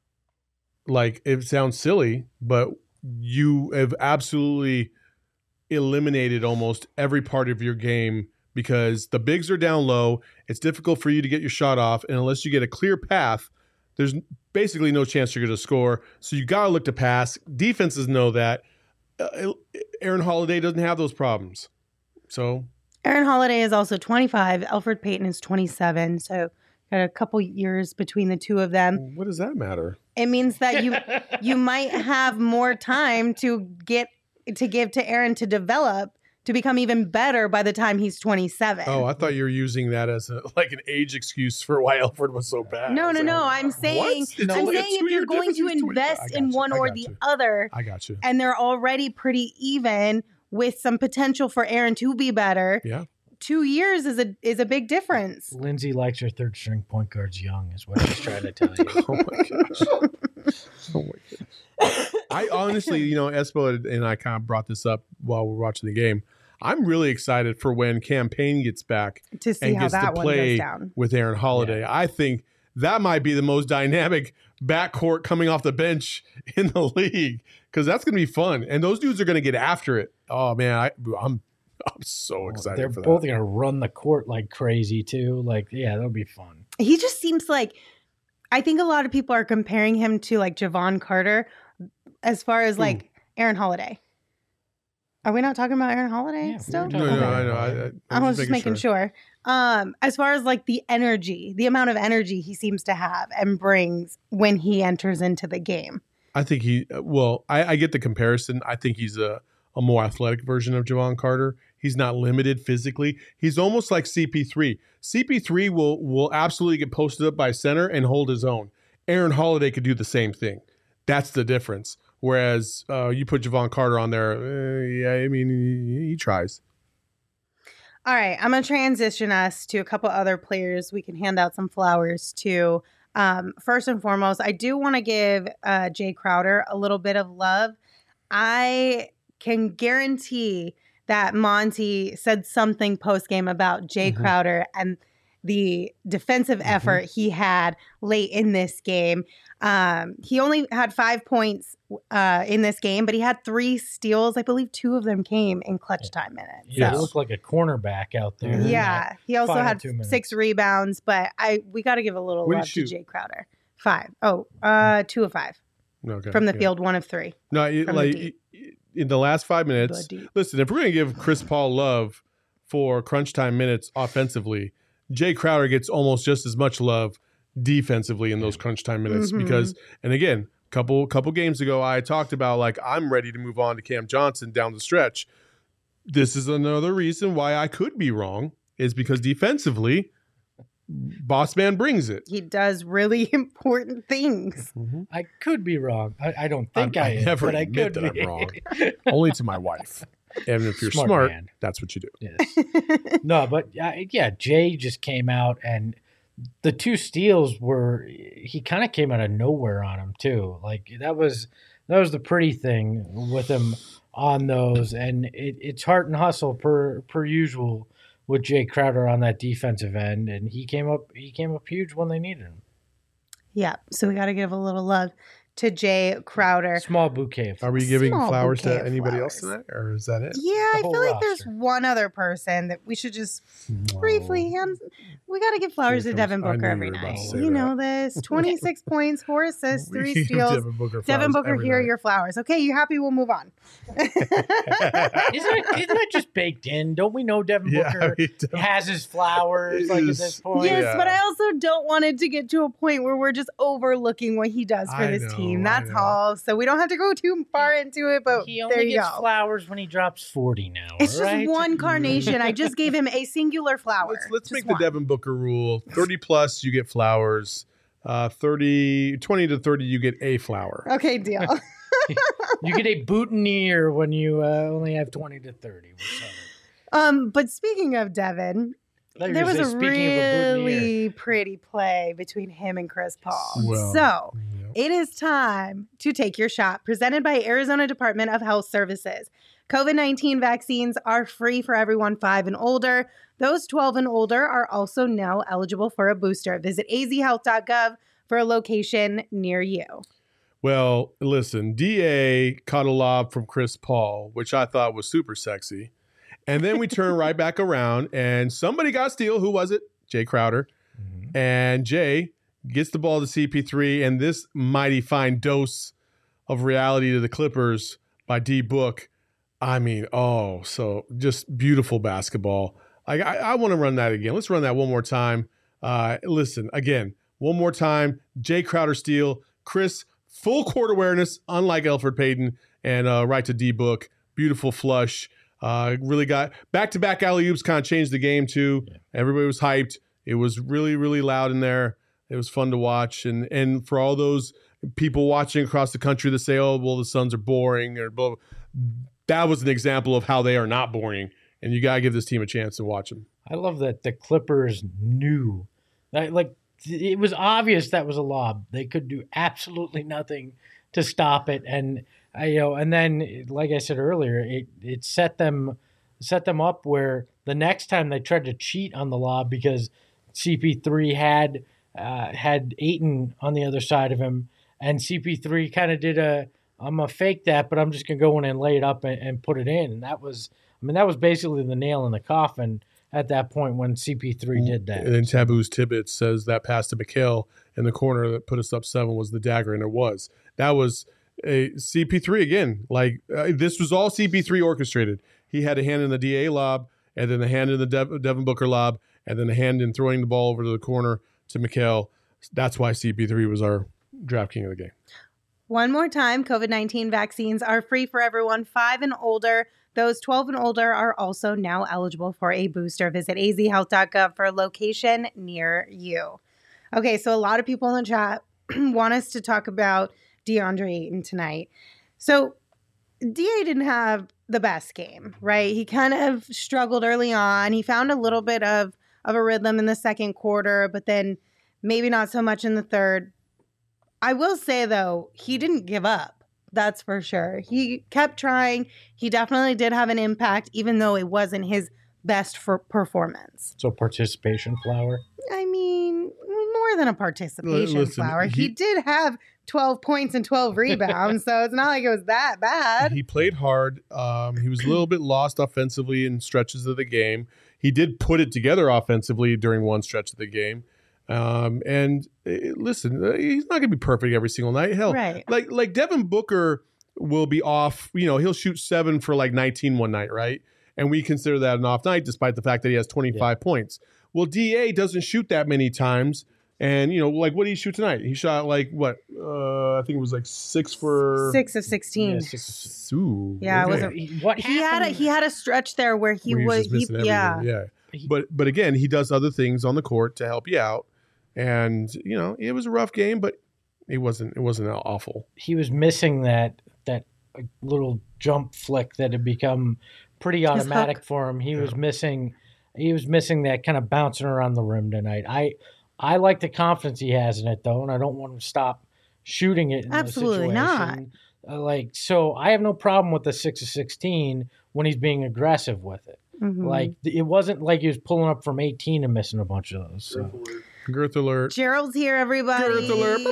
like, it sounds silly, but you have absolutely eliminated almost every part of your game because the bigs are down low. It's difficult for you to get your shot off, and unless you get a clear path, there's basically no chance you're going to score. So you got to look to pass. Defenses know that. Aaron Holiday doesn't have those problems. So Aaron Holiday is also 25. Elfrid Payton is 27. So got a couple years between the two of them. What does that matter? It means that you might have more time to get to give to Aaron to develop to become even better by the time he's 27. Oh, I thought you were using that as an age excuse for why Elfrid was so bad. No. I'm saying if you're going to invest in one or the other, I got you. And they're already pretty even with some potential for Aaron to be better. Yeah. 2 years is a big difference. Lindsay likes her third string point guards young, is what she's trying to tell you. Oh my gosh. I honestly, Espo and I kind of brought this up while we're watching the game. I'm really excited for when Cam Payne gets back to see and how gets that to one play goes down with Aaron Holiday. Yeah. I think that might be the most dynamic backcourt coming off the bench in the league because that's going to be fun. And those dudes are going to get after it. Oh, man, I'm so excited for that. They're both going to run the court like crazy, too. That'll be fun. He just seems like – I think a lot of people are comparing him to, Javon Carter as far as, Aaron Holiday. Are we not talking about Aaron Holiday still? No, I know. I was just making sure. As far as, the energy, the amount of energy he seems to have and brings when he enters into the game. I think I get the comparison. I think he's a more athletic version of Javon Carter. He's not limited physically. He's almost like CP3. CP3 will absolutely get posted up by center and hold his own. Aaron Holiday could do the same thing. That's the difference. Whereas you put Javon Carter on there, he tries. All right, I'm going to transition us to a couple other players we can hand out some flowers to. First and foremost, I do want to give Jay Crowder a little bit of love. I can guarantee that Monty said something post-game about Jay Crowder and the defensive effort he had late in this game. He only had 5 points in this game, but he had 3 steals. I believe 2 of them came in clutch time minutes. Yeah, he looked like a cornerback out there. Yeah, he also had 6 rebounds, but we got to give a little love to Jay Crowder. 5. 2 of 5. Okay, from the field, 1 of 3. No, in the last 5 minutes, listen, if we're going to give Chris Paul love for crunch time minutes offensively, Jay Crowder gets almost just as much love defensively in those crunch time minutes because, and again, couple games ago, I talked about I'm ready to move on to Cam Johnson down the stretch. This is another reason why I could be wrong is because defensively, Boss Man brings it. He does really important things. I could be wrong. I don't think I am, never but I admit could that be. I'm wrong. Only to my wife. And if you're smart that's what you do. Yes. No, but Jay just came out and the 2 steals he kind of came out of nowhere on him too. That was the pretty thing with him on those. And it's heart and hustle per usual with Jay Crowder on that defensive end. And he came up huge when they needed him. Yeah. So we got to give a little love to Jay Crowder. Small bouquet of flowers. Are we giving flowers to anybody else tonight, or is that it? Yeah, I feel like there's one other person that we should just briefly hand. We got to give flowers to Devin Booker every night. You know this. 26 points, 4 assists, 3 steals. Devin Booker, here are your flowers. Okay, you happy? We'll move on. Isn't that just baked in? Don't we know Devin Booker has his flowers at this point? Yes, but I also don't want it to get to a point where we're just overlooking what he does for this team. That's all. So we don't have to go too far into it, but he only gets flowers when he drops 40 now. It's just one carnation. I just gave him a singular flower. Let's make the Devin Booker rule. 30 plus, you get flowers. 20 to 30, you get a flower. Okay, deal. You get a boutonniere when you only have 20 to 30. But speaking of Devin, there was a really pretty play between him and Chris Paul. It is time to take your shot, presented by Arizona Department of Health Services. COVID-19 vaccines are free for everyone 5 and older. Those 12 and older are also now eligible for a booster. Visit azhealth.gov for a location near you. Well, listen, DA caught a lob from Chris Paul, which I thought was super sexy. And then we turn right back around and somebody got steal. Who was it? Jay Crowder. And Jay gets the ball to CP3, and this mighty fine dose of reality to the Clippers by D Book. I mean, so just beautiful basketball. I want to run that again. Let's run that one more time. Listen, again, one more time. Jay Crowder steal. Chris, full court awareness, unlike Elfrid Payton, and right to D Book. beautiful flush. Really got back-to-back alley-oops, kind of changed the game too. Yeah. Everybody was hyped. It was really, really loud in there. It was fun to watch. And for all those people watching across the country that say, oh, well, the Suns are boring or blah, that was an example of how they are not boring. And you got to give this team a chance to watch them. I love that the Clippers knew. Like, it was obvious that was a lob. They could do absolutely nothing to stop it. And, and then, like I said earlier, it set them up where the next time they tried to cheat on the lob because CP3 had Ayton on the other side of him, and CP3 kind of did I'm going to fake that, but I'm just going to go in and lay it up and put it in. And that was basically the nail in the coffin at that point when CP3 did that. And then Taboo's Tibbetts says that pass to Mikal in the corner that put us up 7 was the dagger, and it was. That was a CP3 again. Like, this was all CP3 orchestrated. He had a hand in the DA lob, and then a hand in the Devin Booker lob, and then a hand in throwing the ball over to the corner to Mikal. That's why CP3 was our draft king of the game. One more time, COVID-19 vaccines are free for everyone 5 and older. Those 12 and older are also now eligible for a booster. Visit azhealth.gov for a location near you. Okay, so a lot of people in the chat want us to talk about DeAndre Ayton tonight. So DA didn't have the best game, right? He kind of struggled early on. He found a little bit of a rhythm in the second quarter, but then maybe not so much in the third. I will say, though, he didn't give up. That's for sure. He kept trying. He definitely did have an impact, even though it wasn't his best performance. So participation flower? I mean, more than a participation flower. He did have 12 points and 12 rebounds, so it's not like it was that bad. He played hard. He was a little bit lost offensively in stretches of the game. He did put it together offensively during one stretch of the game. Listen, he's not going to be perfect every single night. Hell, right. like Devin Booker will be off. He'll shoot 7 for like 19 one night, right? And we consider that an off night, despite the fact that he has 25 points. Well, DA doesn't shoot that many times, and like what did he shoot tonight? He shot like what? I think it was like 6 of 16. Yeah, yeah, okay. He had a stretch there where he was missing everything. Yeah. But again, he does other things on the court to help you out. And it was a rough game, but it wasn't awful. He was missing that little jump flick that had become pretty automatic for him. He was missing that kind of bouncing around the rim tonight. I like the confidence he has in it though, and I don't want him to stop shooting it in Absolutely not. So I have no problem with the 6 of 16 when he's being aggressive with it. Mm-hmm. Like, it wasn't like he was pulling up from 18 and missing a bunch of those. So. Girth alert. Gerald's here, everybody. Girth alert.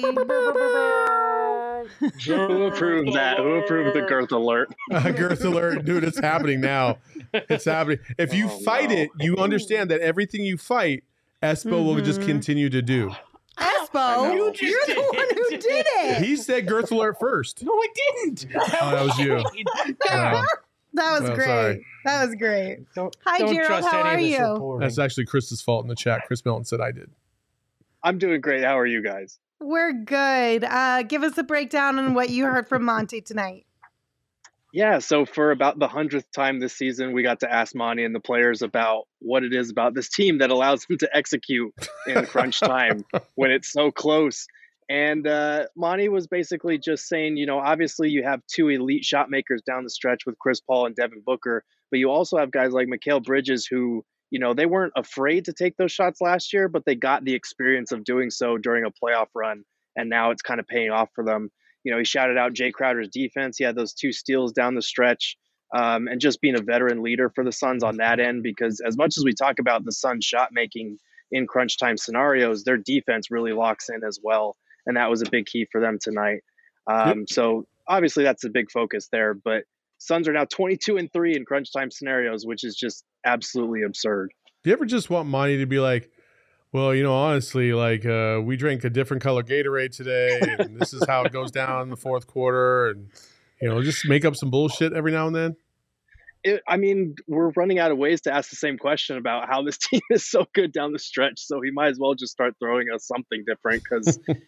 Who approved that? Who approved the girth alert? Girth alert. Dude, it's happening now. It's happening. If you fight it, you understand that everything you fight, Espo will just continue to do. Espo, you're the one who did it. He said girth alert first. No, I didn't. That was you. That was great. Sorry. That was great. Hi, don't Gerald. How are you? Reporting. That's actually Chris's fault in the chat. Chris Milton said I did. I'm doing great. How are you guys? We're good. Give us a breakdown on what you heard from Monty tonight. Yeah, so for about the 100th time this season, we got to ask Monty and the players about what it is about this team that allows them to execute in crunch time when it's so close. And Monty was basically just saying, obviously you have 2 elite shot makers down the stretch with Chris Paul and Devin Booker, but you also have guys like Mikal Bridges who, they weren't afraid to take those shots last year, but they got the experience of doing so during a playoff run, and now it's kind of paying off for them. He shouted out Jay Crowder's defense. He had those 2 steals down the stretch, and just being a veteran leader for the Suns on that end, because as much as we talk about the Suns shot making in crunch time scenarios, their defense really locks in as well. And that was a big key for them tonight. So obviously that's a big focus there, but Suns are now 22-3 in crunch time scenarios, which is just absolutely absurd. Do you ever just want Monty to be like, well, honestly, like we drank a different color Gatorade today, and this is how it goes down in the fourth quarter, and just make up some bullshit every now and then? We're running out of ways to ask the same question about how this team is so good down the stretch, so he might as well just start throwing us something different because,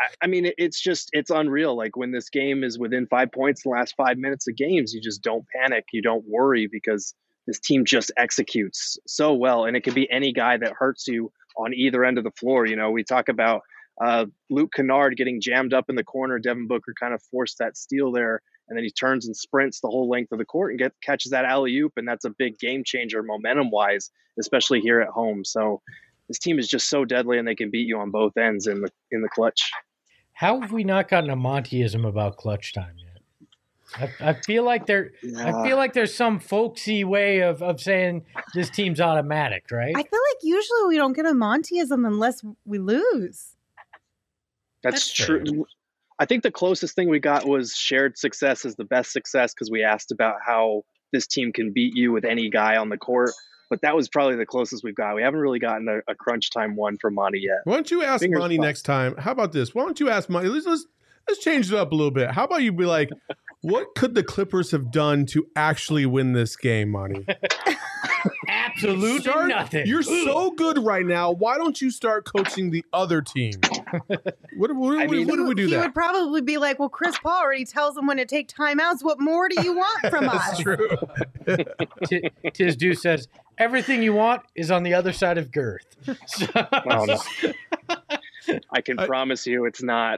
I mean, it's unreal. Like when this game is within 5 points in the last 5 minutes of games, you just don't panic. You don't worry because this team just executes so well. And it can be any guy that hurts you on either end of the floor. You know, we talk about Luke Kennard getting jammed up in the corner. Devin Booker kind of forced that steal there. And then he turns and sprints the whole length of the court and catches that alley-oop. And that's a big game changer momentum-wise, especially here at home. So this team is just so deadly, and they can beat you on both ends in the clutch. How have we not gotten a Montyism about clutch time yet? I feel like there's some folksy way of saying this team's automatic, right? I feel like usually we don't get a Montyism unless we lose. That's true. I think the closest thing we got was shared success is the best success, because we asked about how this team can beat you with any guy on the court. But that was probably the closest we've got. We haven't really gotten a crunch time one from Monty yet. Why don't you ask Monty next time? How about this? Why don't you ask Monty? Let's change it up a little bit. How about you be like, what could the Clippers have done to actually win this game, Monty? Absolutely nothing. You're so good right now. Why don't you start coaching the other team? What do we do? He would probably be like, well, Chris Paul already tells him when to take timeouts. What more do you want from us? That's true. Tiz Deuce says, everything you want is on the other side of girth. So, oh, no. I can promise you it's not.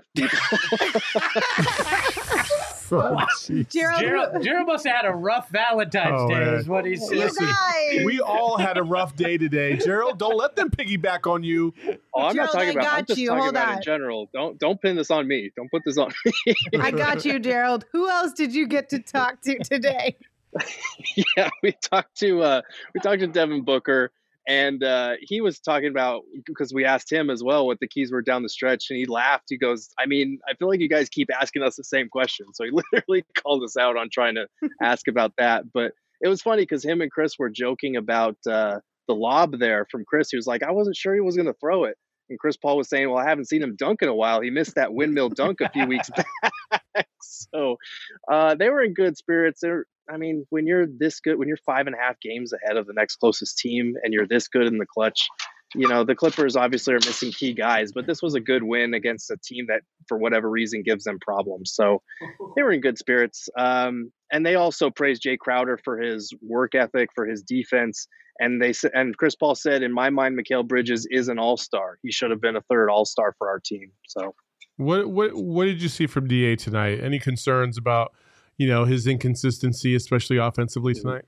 Gerald must have had a rough Valentine's Day, is what he said. We all had a rough day today. Gerald, don't let them piggyback on you. Oh, I'm not talking about. I'm just talking about in general. Don't pin this on me. Don't put this on me. I got you, Gerald. Who else did you get to talk to today? Yeah, we talked to Devin Booker. And he was talking about, because we asked him as well what the keys were down the stretch, and he laughed. He goes, I mean, I feel like you guys keep asking us the same question. So he literally called us out on trying to ask about that. But it was funny because him and Chris were joking about the lob there from Chris. He was like, I wasn't sure he was going to throw it. And Chris Paul was saying, well, I haven't seen him dunk in a while. He missed that windmill dunk a few weeks back. So they were in good spirits. I mean, when you're this good, when you're 5.5 games ahead of the next closest team and you're this good in the clutch, you know, the Clippers obviously are missing key guys, but this was a good win against a team that, for whatever reason, gives them problems. So they were in good spirits. And they also praised Jay Crowder for his work ethic, for his defense. And Chris Paul said, in my mind, Mikal Bridges is an all-star. He should have been a third all-star for our team. So what did you see from DA tonight? Any concerns about, you know, his inconsistency, especially offensively tonight?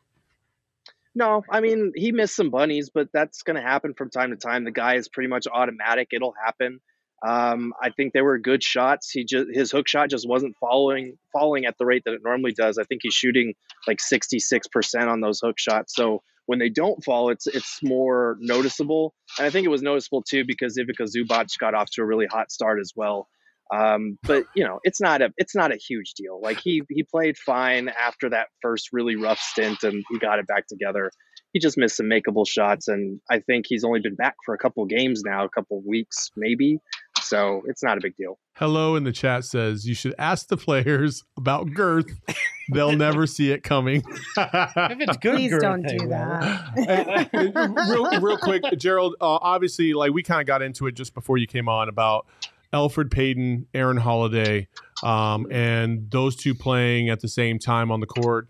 No, I mean, he missed some bunnies, but that's going to happen from time to time. The guy is pretty much automatic. It'll happen. I think they were good shots. His hook shot just wasn't falling at the rate that it normally does. I think he's shooting like 66% on those hook shots. So when they don't fall, it's more noticeable. And I think it was noticeable too because Ivica Zubac got off to a really hot start as well. But you know, it's not a huge deal. Like he played fine after that first really rough stint and he got it back together. He just missed some makeable shots. And I think he's only been back for a couple of games now, a couple of weeks, maybe. So it's not a big deal. Hello in the chat says you should ask the players about girth. They'll never see it coming. If it's good, please girth, don't do that. real quick, Gerald, obviously, like we kind of got into it just before you came on about Elfrid Payton, Aaron Holiday, and those two playing at the same time on the court.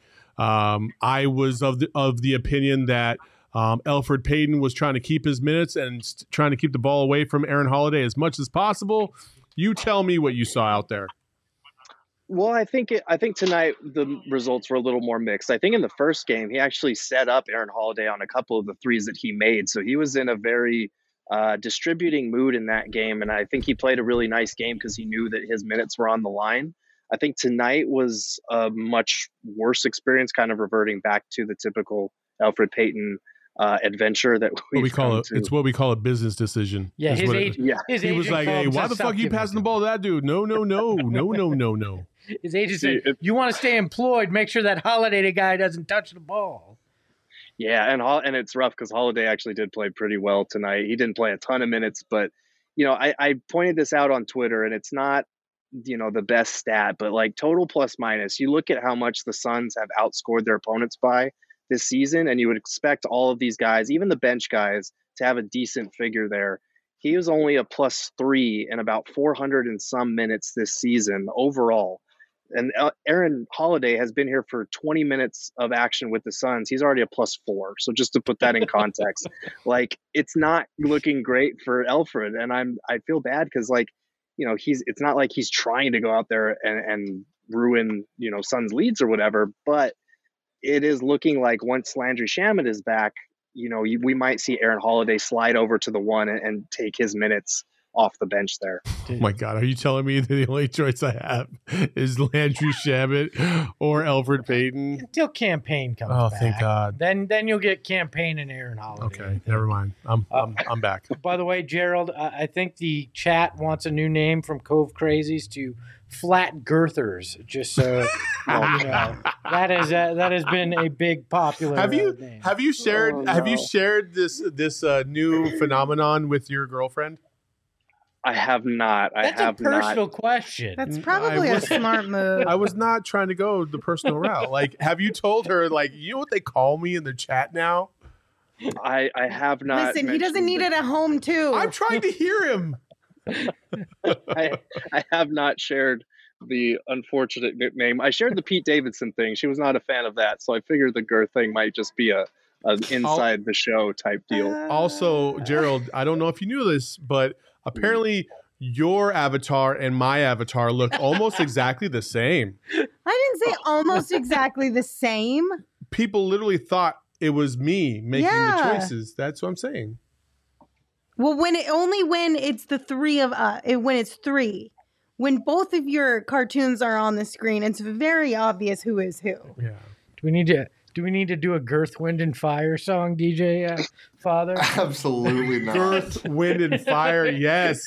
I was of the opinion that Elfrid Payton was trying to keep his minutes and trying to keep the ball away from Aaron Holiday as much as possible. You tell me what you saw out there. Well, I think tonight the results were a little more mixed. I think in the first game, he actually set up Aaron Holiday on a couple of the threes that he made. So he was in a very distributing mood in that game. And I think he played a really nice game because he knew that his minutes were on the line. I think tonight was a much worse experience, kind of reverting back to the typical Elfrid Payton adventure that we call it. It's what we call a business decision. Yeah, his agent was like, "Hey, why the fuck are you passing the ball to that dude? No." His agent said, "You want to stay employed? Make sure that Holiday guy doesn't touch the ball." Yeah, and it's rough because Holiday actually did play pretty well tonight. He didn't play a ton of minutes, but you know, I pointed this out on Twitter, and it's not, you know, the best stat, but like total plus minus, you look at how much the Suns have outscored their opponents by this season, and you would expect all of these guys, even the bench guys, to have a decent figure there. he was only a +3 in about 400 and some minutes this season overall. And Aaron Holiday has been here for 20 minutes of action with the Suns. He's already a +4. So just to put that in context, like, it's not looking great for Elfrid. And I feel bad because, like, you know, it's not like he's trying to go out there and ruin, you know, Suns leads or whatever, but it is looking like once Landry Shamet is back, you know, we might see Aaron Holiday slide over to the 1 and take his minutes off the bench there. Oh my God, are you telling me that the only choice I have is Landry Shamet or Elfrid Payton? Until Campaign comes back. Oh, thank God. Then you'll get Campaign and Aaron Holiday. Okay, never mind. I'm back. By the way, Gerald, I think the chat wants a new name from Cove Crazies to Flat Girthers. Just so you know, that has been a big popular. Have you shared Oh, no. have you shared this new phenomenon with your girlfriend? I have not. That's a personal question. That's probably a smart move. I was not trying to go the personal route. Like, have you told her, like, you know what they call me in the chat now? I have not. Listen, he doesn't need it at home too. I'm trying to hear him. I have not shared the unfortunate nickname. I shared the Pete Davidson thing. She was not a fan of that, so I figured the girth thing might just be an inside the show type deal. Also, Gerald, I don't know if you knew this, but apparently your avatar and my avatar look almost exactly the same. I didn't say almost exactly the same. People literally thought it was me making the choices. That's what I'm saying. Well, when it's the three of us, when it's three, when both of your cartoons are on the screen, it's very obvious who is who. Yeah. Do we need to do a Girth, Wind, and Fire song, DJ Father? Absolutely not. Earth, Wind, and Fire. Yes.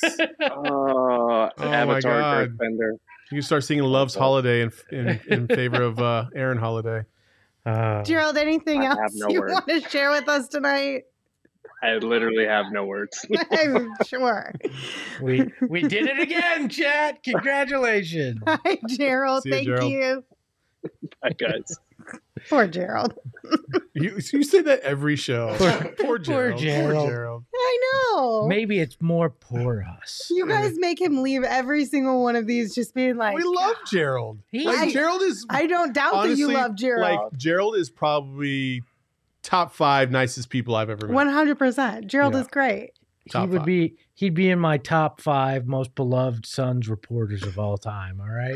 Oh, Avatar my God. Earthbender. You can start singing Love's Holiday in favor of Aaron Holiday. Gerald, anything I have else no you words. want to share with us tonight? I literally have no words. I'm sure. We did it again, chat. Congratulations. Hi, Gerald. See you, Thank Gerald. you. Bye, guys. Poor Gerald. You say that every show. Poor Gerald. Gerald. Poor Gerald. I know. Maybe it's more poor us. You guys make him leave every single one of these just being like, We love Gerald. I- Gerald is I don't doubt that you honestly, love Gerald. Like, Gerald is probably top 5 nicest people I've ever met. 100%. Gerald Yeah. is great. Top He would 5. he'd be in my top 5 most beloved Suns reporters of all time. All right,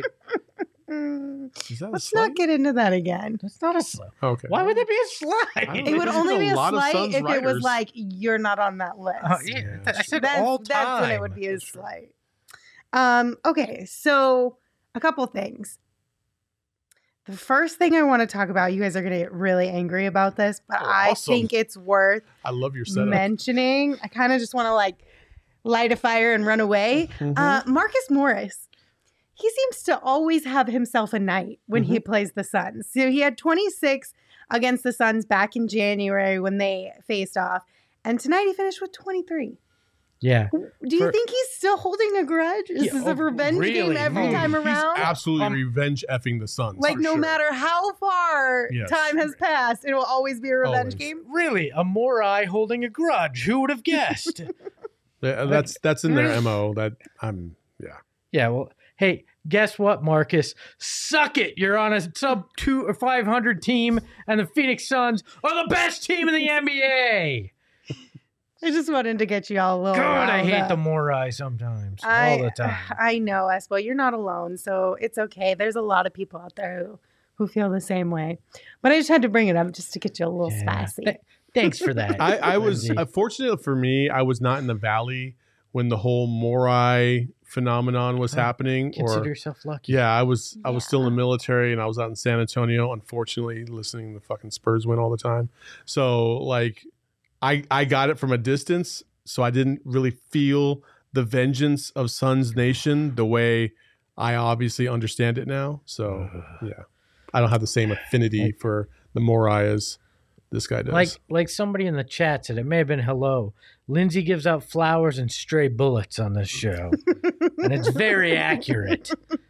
Is that a Let's slight? not get into that again. that's not a slip. Okay. Why would there be a slide? I don't It know. would There's only a be a lot of slight Suns if it was writers. like, you're not on that list. Yeah, Yeah. I said That's, all time. that's when it would be a slight. Okay, so a couple things. The first thing I want to talk about, you guys are going to get really angry about this, but Oh, I awesome. think it's worth I love your setup. mentioning. I kind of just want to like light a fire and run away. Mhm. Marcus Morris, he seems to always have himself a night when he plays the Suns. So he had 26 against the Suns back in January when they faced off. And tonight he finished with 23. Yeah, Do you think he's still holding a grudge? Is this a revenge game really? every time around? He's absolutely revenge effing the Suns. Like, for no sure. matter how far Yes. time has passed, it will always be a revenge Always. game. really, a Morai holding a grudge. Who would have guessed? That's in their MO. That I'm Yeah, well, hey, guess what, Marcus? Suck it. You're on a sub 2 or 500 team, and the Phoenix Suns are the best team in the NBA. I just wanted to get you all a little God, I riled hate up. the Morai sometimes, all the time. I know, Espo. You're not alone, so it's okay. There's a lot of people out there who feel the same way. But I just had to bring it up just to get you a little Yeah. spicy. Thanks for that. I was Lindsay. fortunate for me. I was not in the Valley when the whole Morai phenomenon was happening. Consider Or yourself lucky. yeah, I was still in the military and I was out in San Antonio. Unfortunately, listening to the fucking Spurs win all the time. So like, I got it from a distance. So I didn't really feel the vengeance of Suns Nation the way I obviously understand it now. So yeah, I don't have the same affinity for the Morai as this guy does. Like somebody in the chat said, it may have been hello. Lindsay gives out flowers and stray bullets on this show. And it's very accurate.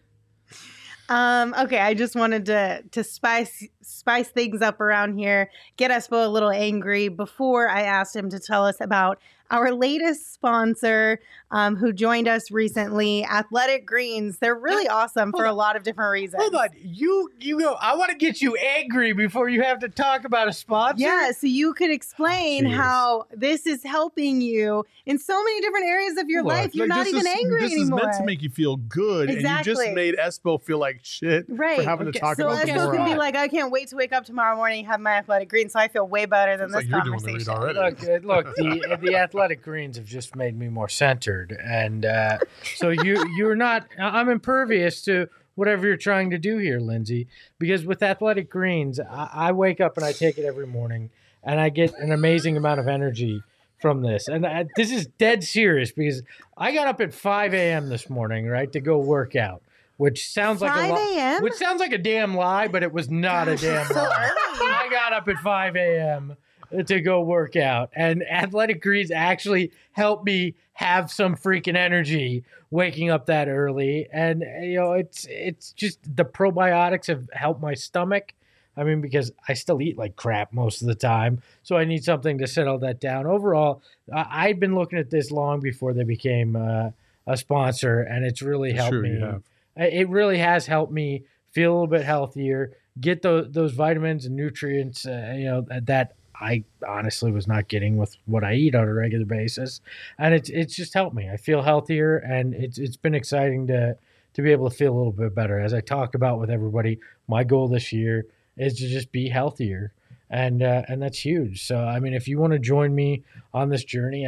Okay, I just wanted to spice things up around here, get Espo a little angry before I asked him to tell us about our latest sponsor who joined us recently, Athletic Greens. They're really awesome for a lot of different reasons. Hold on. You go, I want to get you angry before you have to talk about a sponsor. Yeah, so you could explain how this is helping you in so many different areas of your life. You're not even angry this anymore. This is meant to make you feel good, and you just made Espo feel like shit for having to talk about Espo could be like, I can't wait to wake up tomorrow morning and have my Athletic Greens, so I feel way better than this conversation. Look, the Athletic Greens have just made me more centered, and so you're not. I'm impervious to whatever you're trying to do here, Lindsay, because with Athletic Greens, I wake up and I take it every morning, and I get an amazing amount of energy from this. And this is dead serious because I got up at 5 a.m. this morning, right, to go work out, which sounds like 5 a.m.? Which sounds like a damn lie, but it was not a damn lie. I got up at 5 a.m. to go work out, and Athletic Greens actually helped me have some freaking energy waking up that early. And it's just the probiotics have helped my stomach. I mean, because I still eat like crap most of the time, so I need something to settle that down. Overall, I've been looking at this long before they became a sponsor, and it's really helped me. It really has helped me feel a little bit healthier, get those vitamins and nutrients, that I honestly was not getting with what I eat on a regular basis. And it's just helped me. I feel healthier, and it's been exciting to be able to feel a little bit better. As I talk about with everybody, my goal this year is to just be healthier. And that's huge. So, I mean, if you want to join me on this journey,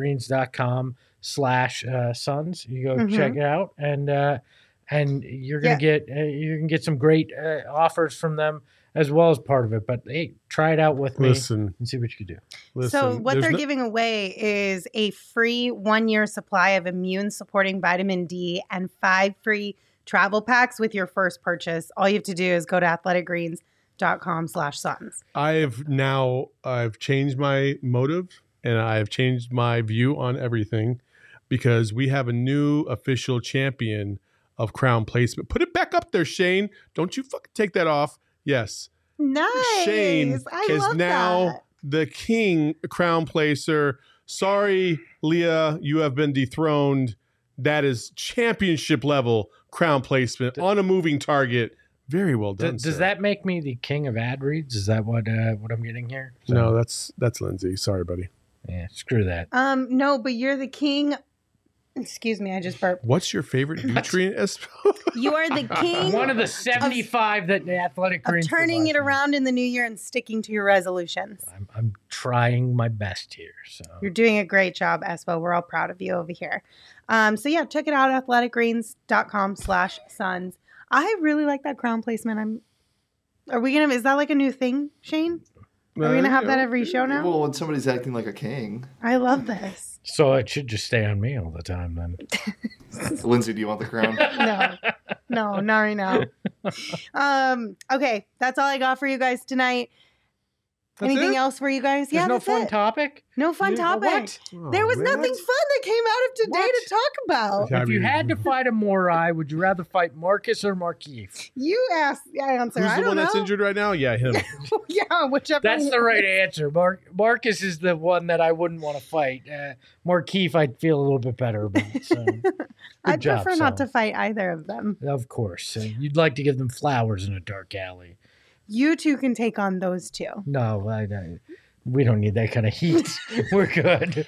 athleticgreens.com/sons, you go check it out. And you're going to get some great offers from them as well as part of it. But hey, try it out with me and see what you can do. So what they're giving away is a free 1-year supply of immune supporting vitamin D and 5 free travel packs with your first purchase. All you have to do is go to athleticgreens.com/sons. I've changed my motive, and I've changed my view on everything, because we have a new official champion of crown placement. Put it back up there, Shane. Don't you fucking take that off. Yes. Nice. Shane is now the king crown placer. Sorry, Leah, you have been dethroned. That is championship level crown placement on a moving target. Very well done. Does that make me the king of ad reads? Is that what I'm getting here? So, no, that's Lindsay. Sorry, buddy. Yeah, screw that. No, but you're the king. Excuse me, I just burped. What's your favorite nutrient, Espo? You are the king. One of the 75 that the Athletic Greens turning it around in the new year and sticking to your resolutions. I'm trying my best here. So you're doing a great job, Espo. We're all proud of you over here. So yeah, check it out, athleticgreens.com/sons. I really like that crown placement. Is that like a new thing, Shane? Are we going to have that every show now? Well, when somebody's acting like a king. I love this. So it should just stay on me all the time then. Lindsay, do you want the crown? No, not right now. Okay, that's all I got for you guys tonight. Anything else for you guys? There's no fun topic? No fun topic. What? There was nothing fun that came out of today to talk about. If you had to fight a Morai, would you rather fight Marcus or Markeith? You asked. I answer. Who's the one that's injured right now? Yeah, him. Yeah, whichever. That's the right answer. Marcus is the one that I wouldn't want to fight. Markeith, I'd feel a little bit better about. So. I'd prefer not to fight either of them. Of course. You'd like to give them flowers in a dark alley. You two can take on those two. No, we don't need that kind of heat. We're good.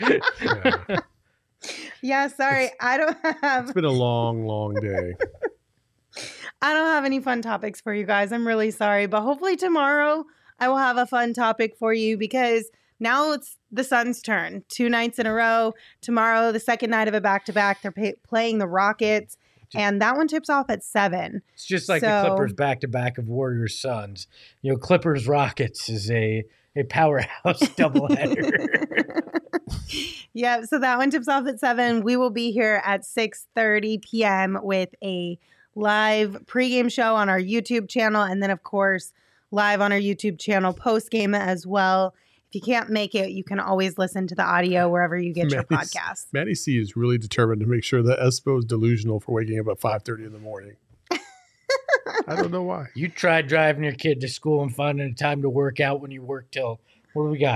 Yeah, sorry. I don't have... It's been a long, long day. I don't have any fun topics for you guys. I'm really sorry. But hopefully tomorrow I will have a fun topic for you, because now it's the Suns' turn. 2 nights in a row. Tomorrow, the second night of a back-to-back, they're playing the Rockets. And that one tips off at 7. It's just like the Clippers back-to-back of Warriors Suns. Clippers Rockets is a powerhouse doubleheader. Yeah, so that one tips off at 7. We will be here at 6:30 p.m. with a live pregame show on our YouTube channel, and then of course live on our YouTube channel post-game as well. If you can't make it, you can always listen to the audio wherever you get your podcast. Maddie C is really determined to make sure that Espo is delusional for waking up at 5:30 in the morning. I don't know why. You tried driving your kid to school and finding a time to work out when you work till, what do we got?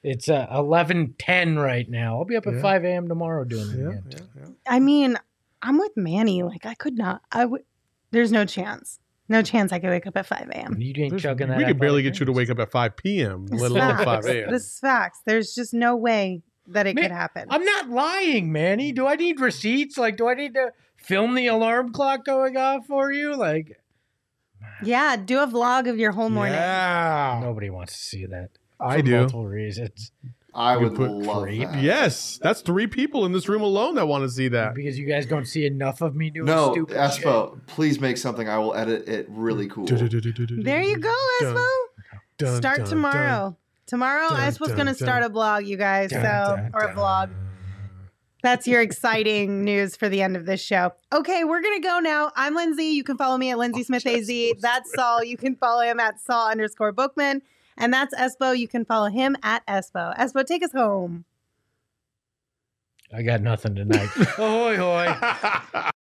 It's 11:10 right now. I'll be up at Yeah. 5 a.m. tomorrow doing it Yeah, again. yeah. I mean, I'm with Manny. Like, I could not. There's no chance. No chance I could wake up at 5 a.m. You ain't There's- chugging that. we could barely athletic get you to greens. wake up at 5 p.m., This let alone facts. 5 a.m. This is facts. There's just no way that it Man, could happen. I'm not lying, Manny. Do I need receipts? Like, do I need to film the alarm clock going off for you? Like, Yeah, do a vlog of your whole morning. Yeah. nobody wants to see that. I for do. multiple reasons. I You would put love creep. that. Yes, that's 3 people in this room alone that want to see that. Because you guys don't see enough of me doing No, stupid Espo, please make something. I will edit it really cool. There you go, Espo. Start tomorrow. Tomorrow, Dun, Espo's dun, going to start dun. a blog, you guys. Dun, So, dun, or a dun. vlog. That's your exciting news for the end of this show. Okay, we're going to go now. I'm Lindsay. You can follow me at Lindsay Smith AZ. That's Saul. You can follow him at Saul_Bookman. And that's Espo. You can follow him at Espo. Espo, take us home. I got nothing tonight. Ahoy, hoy.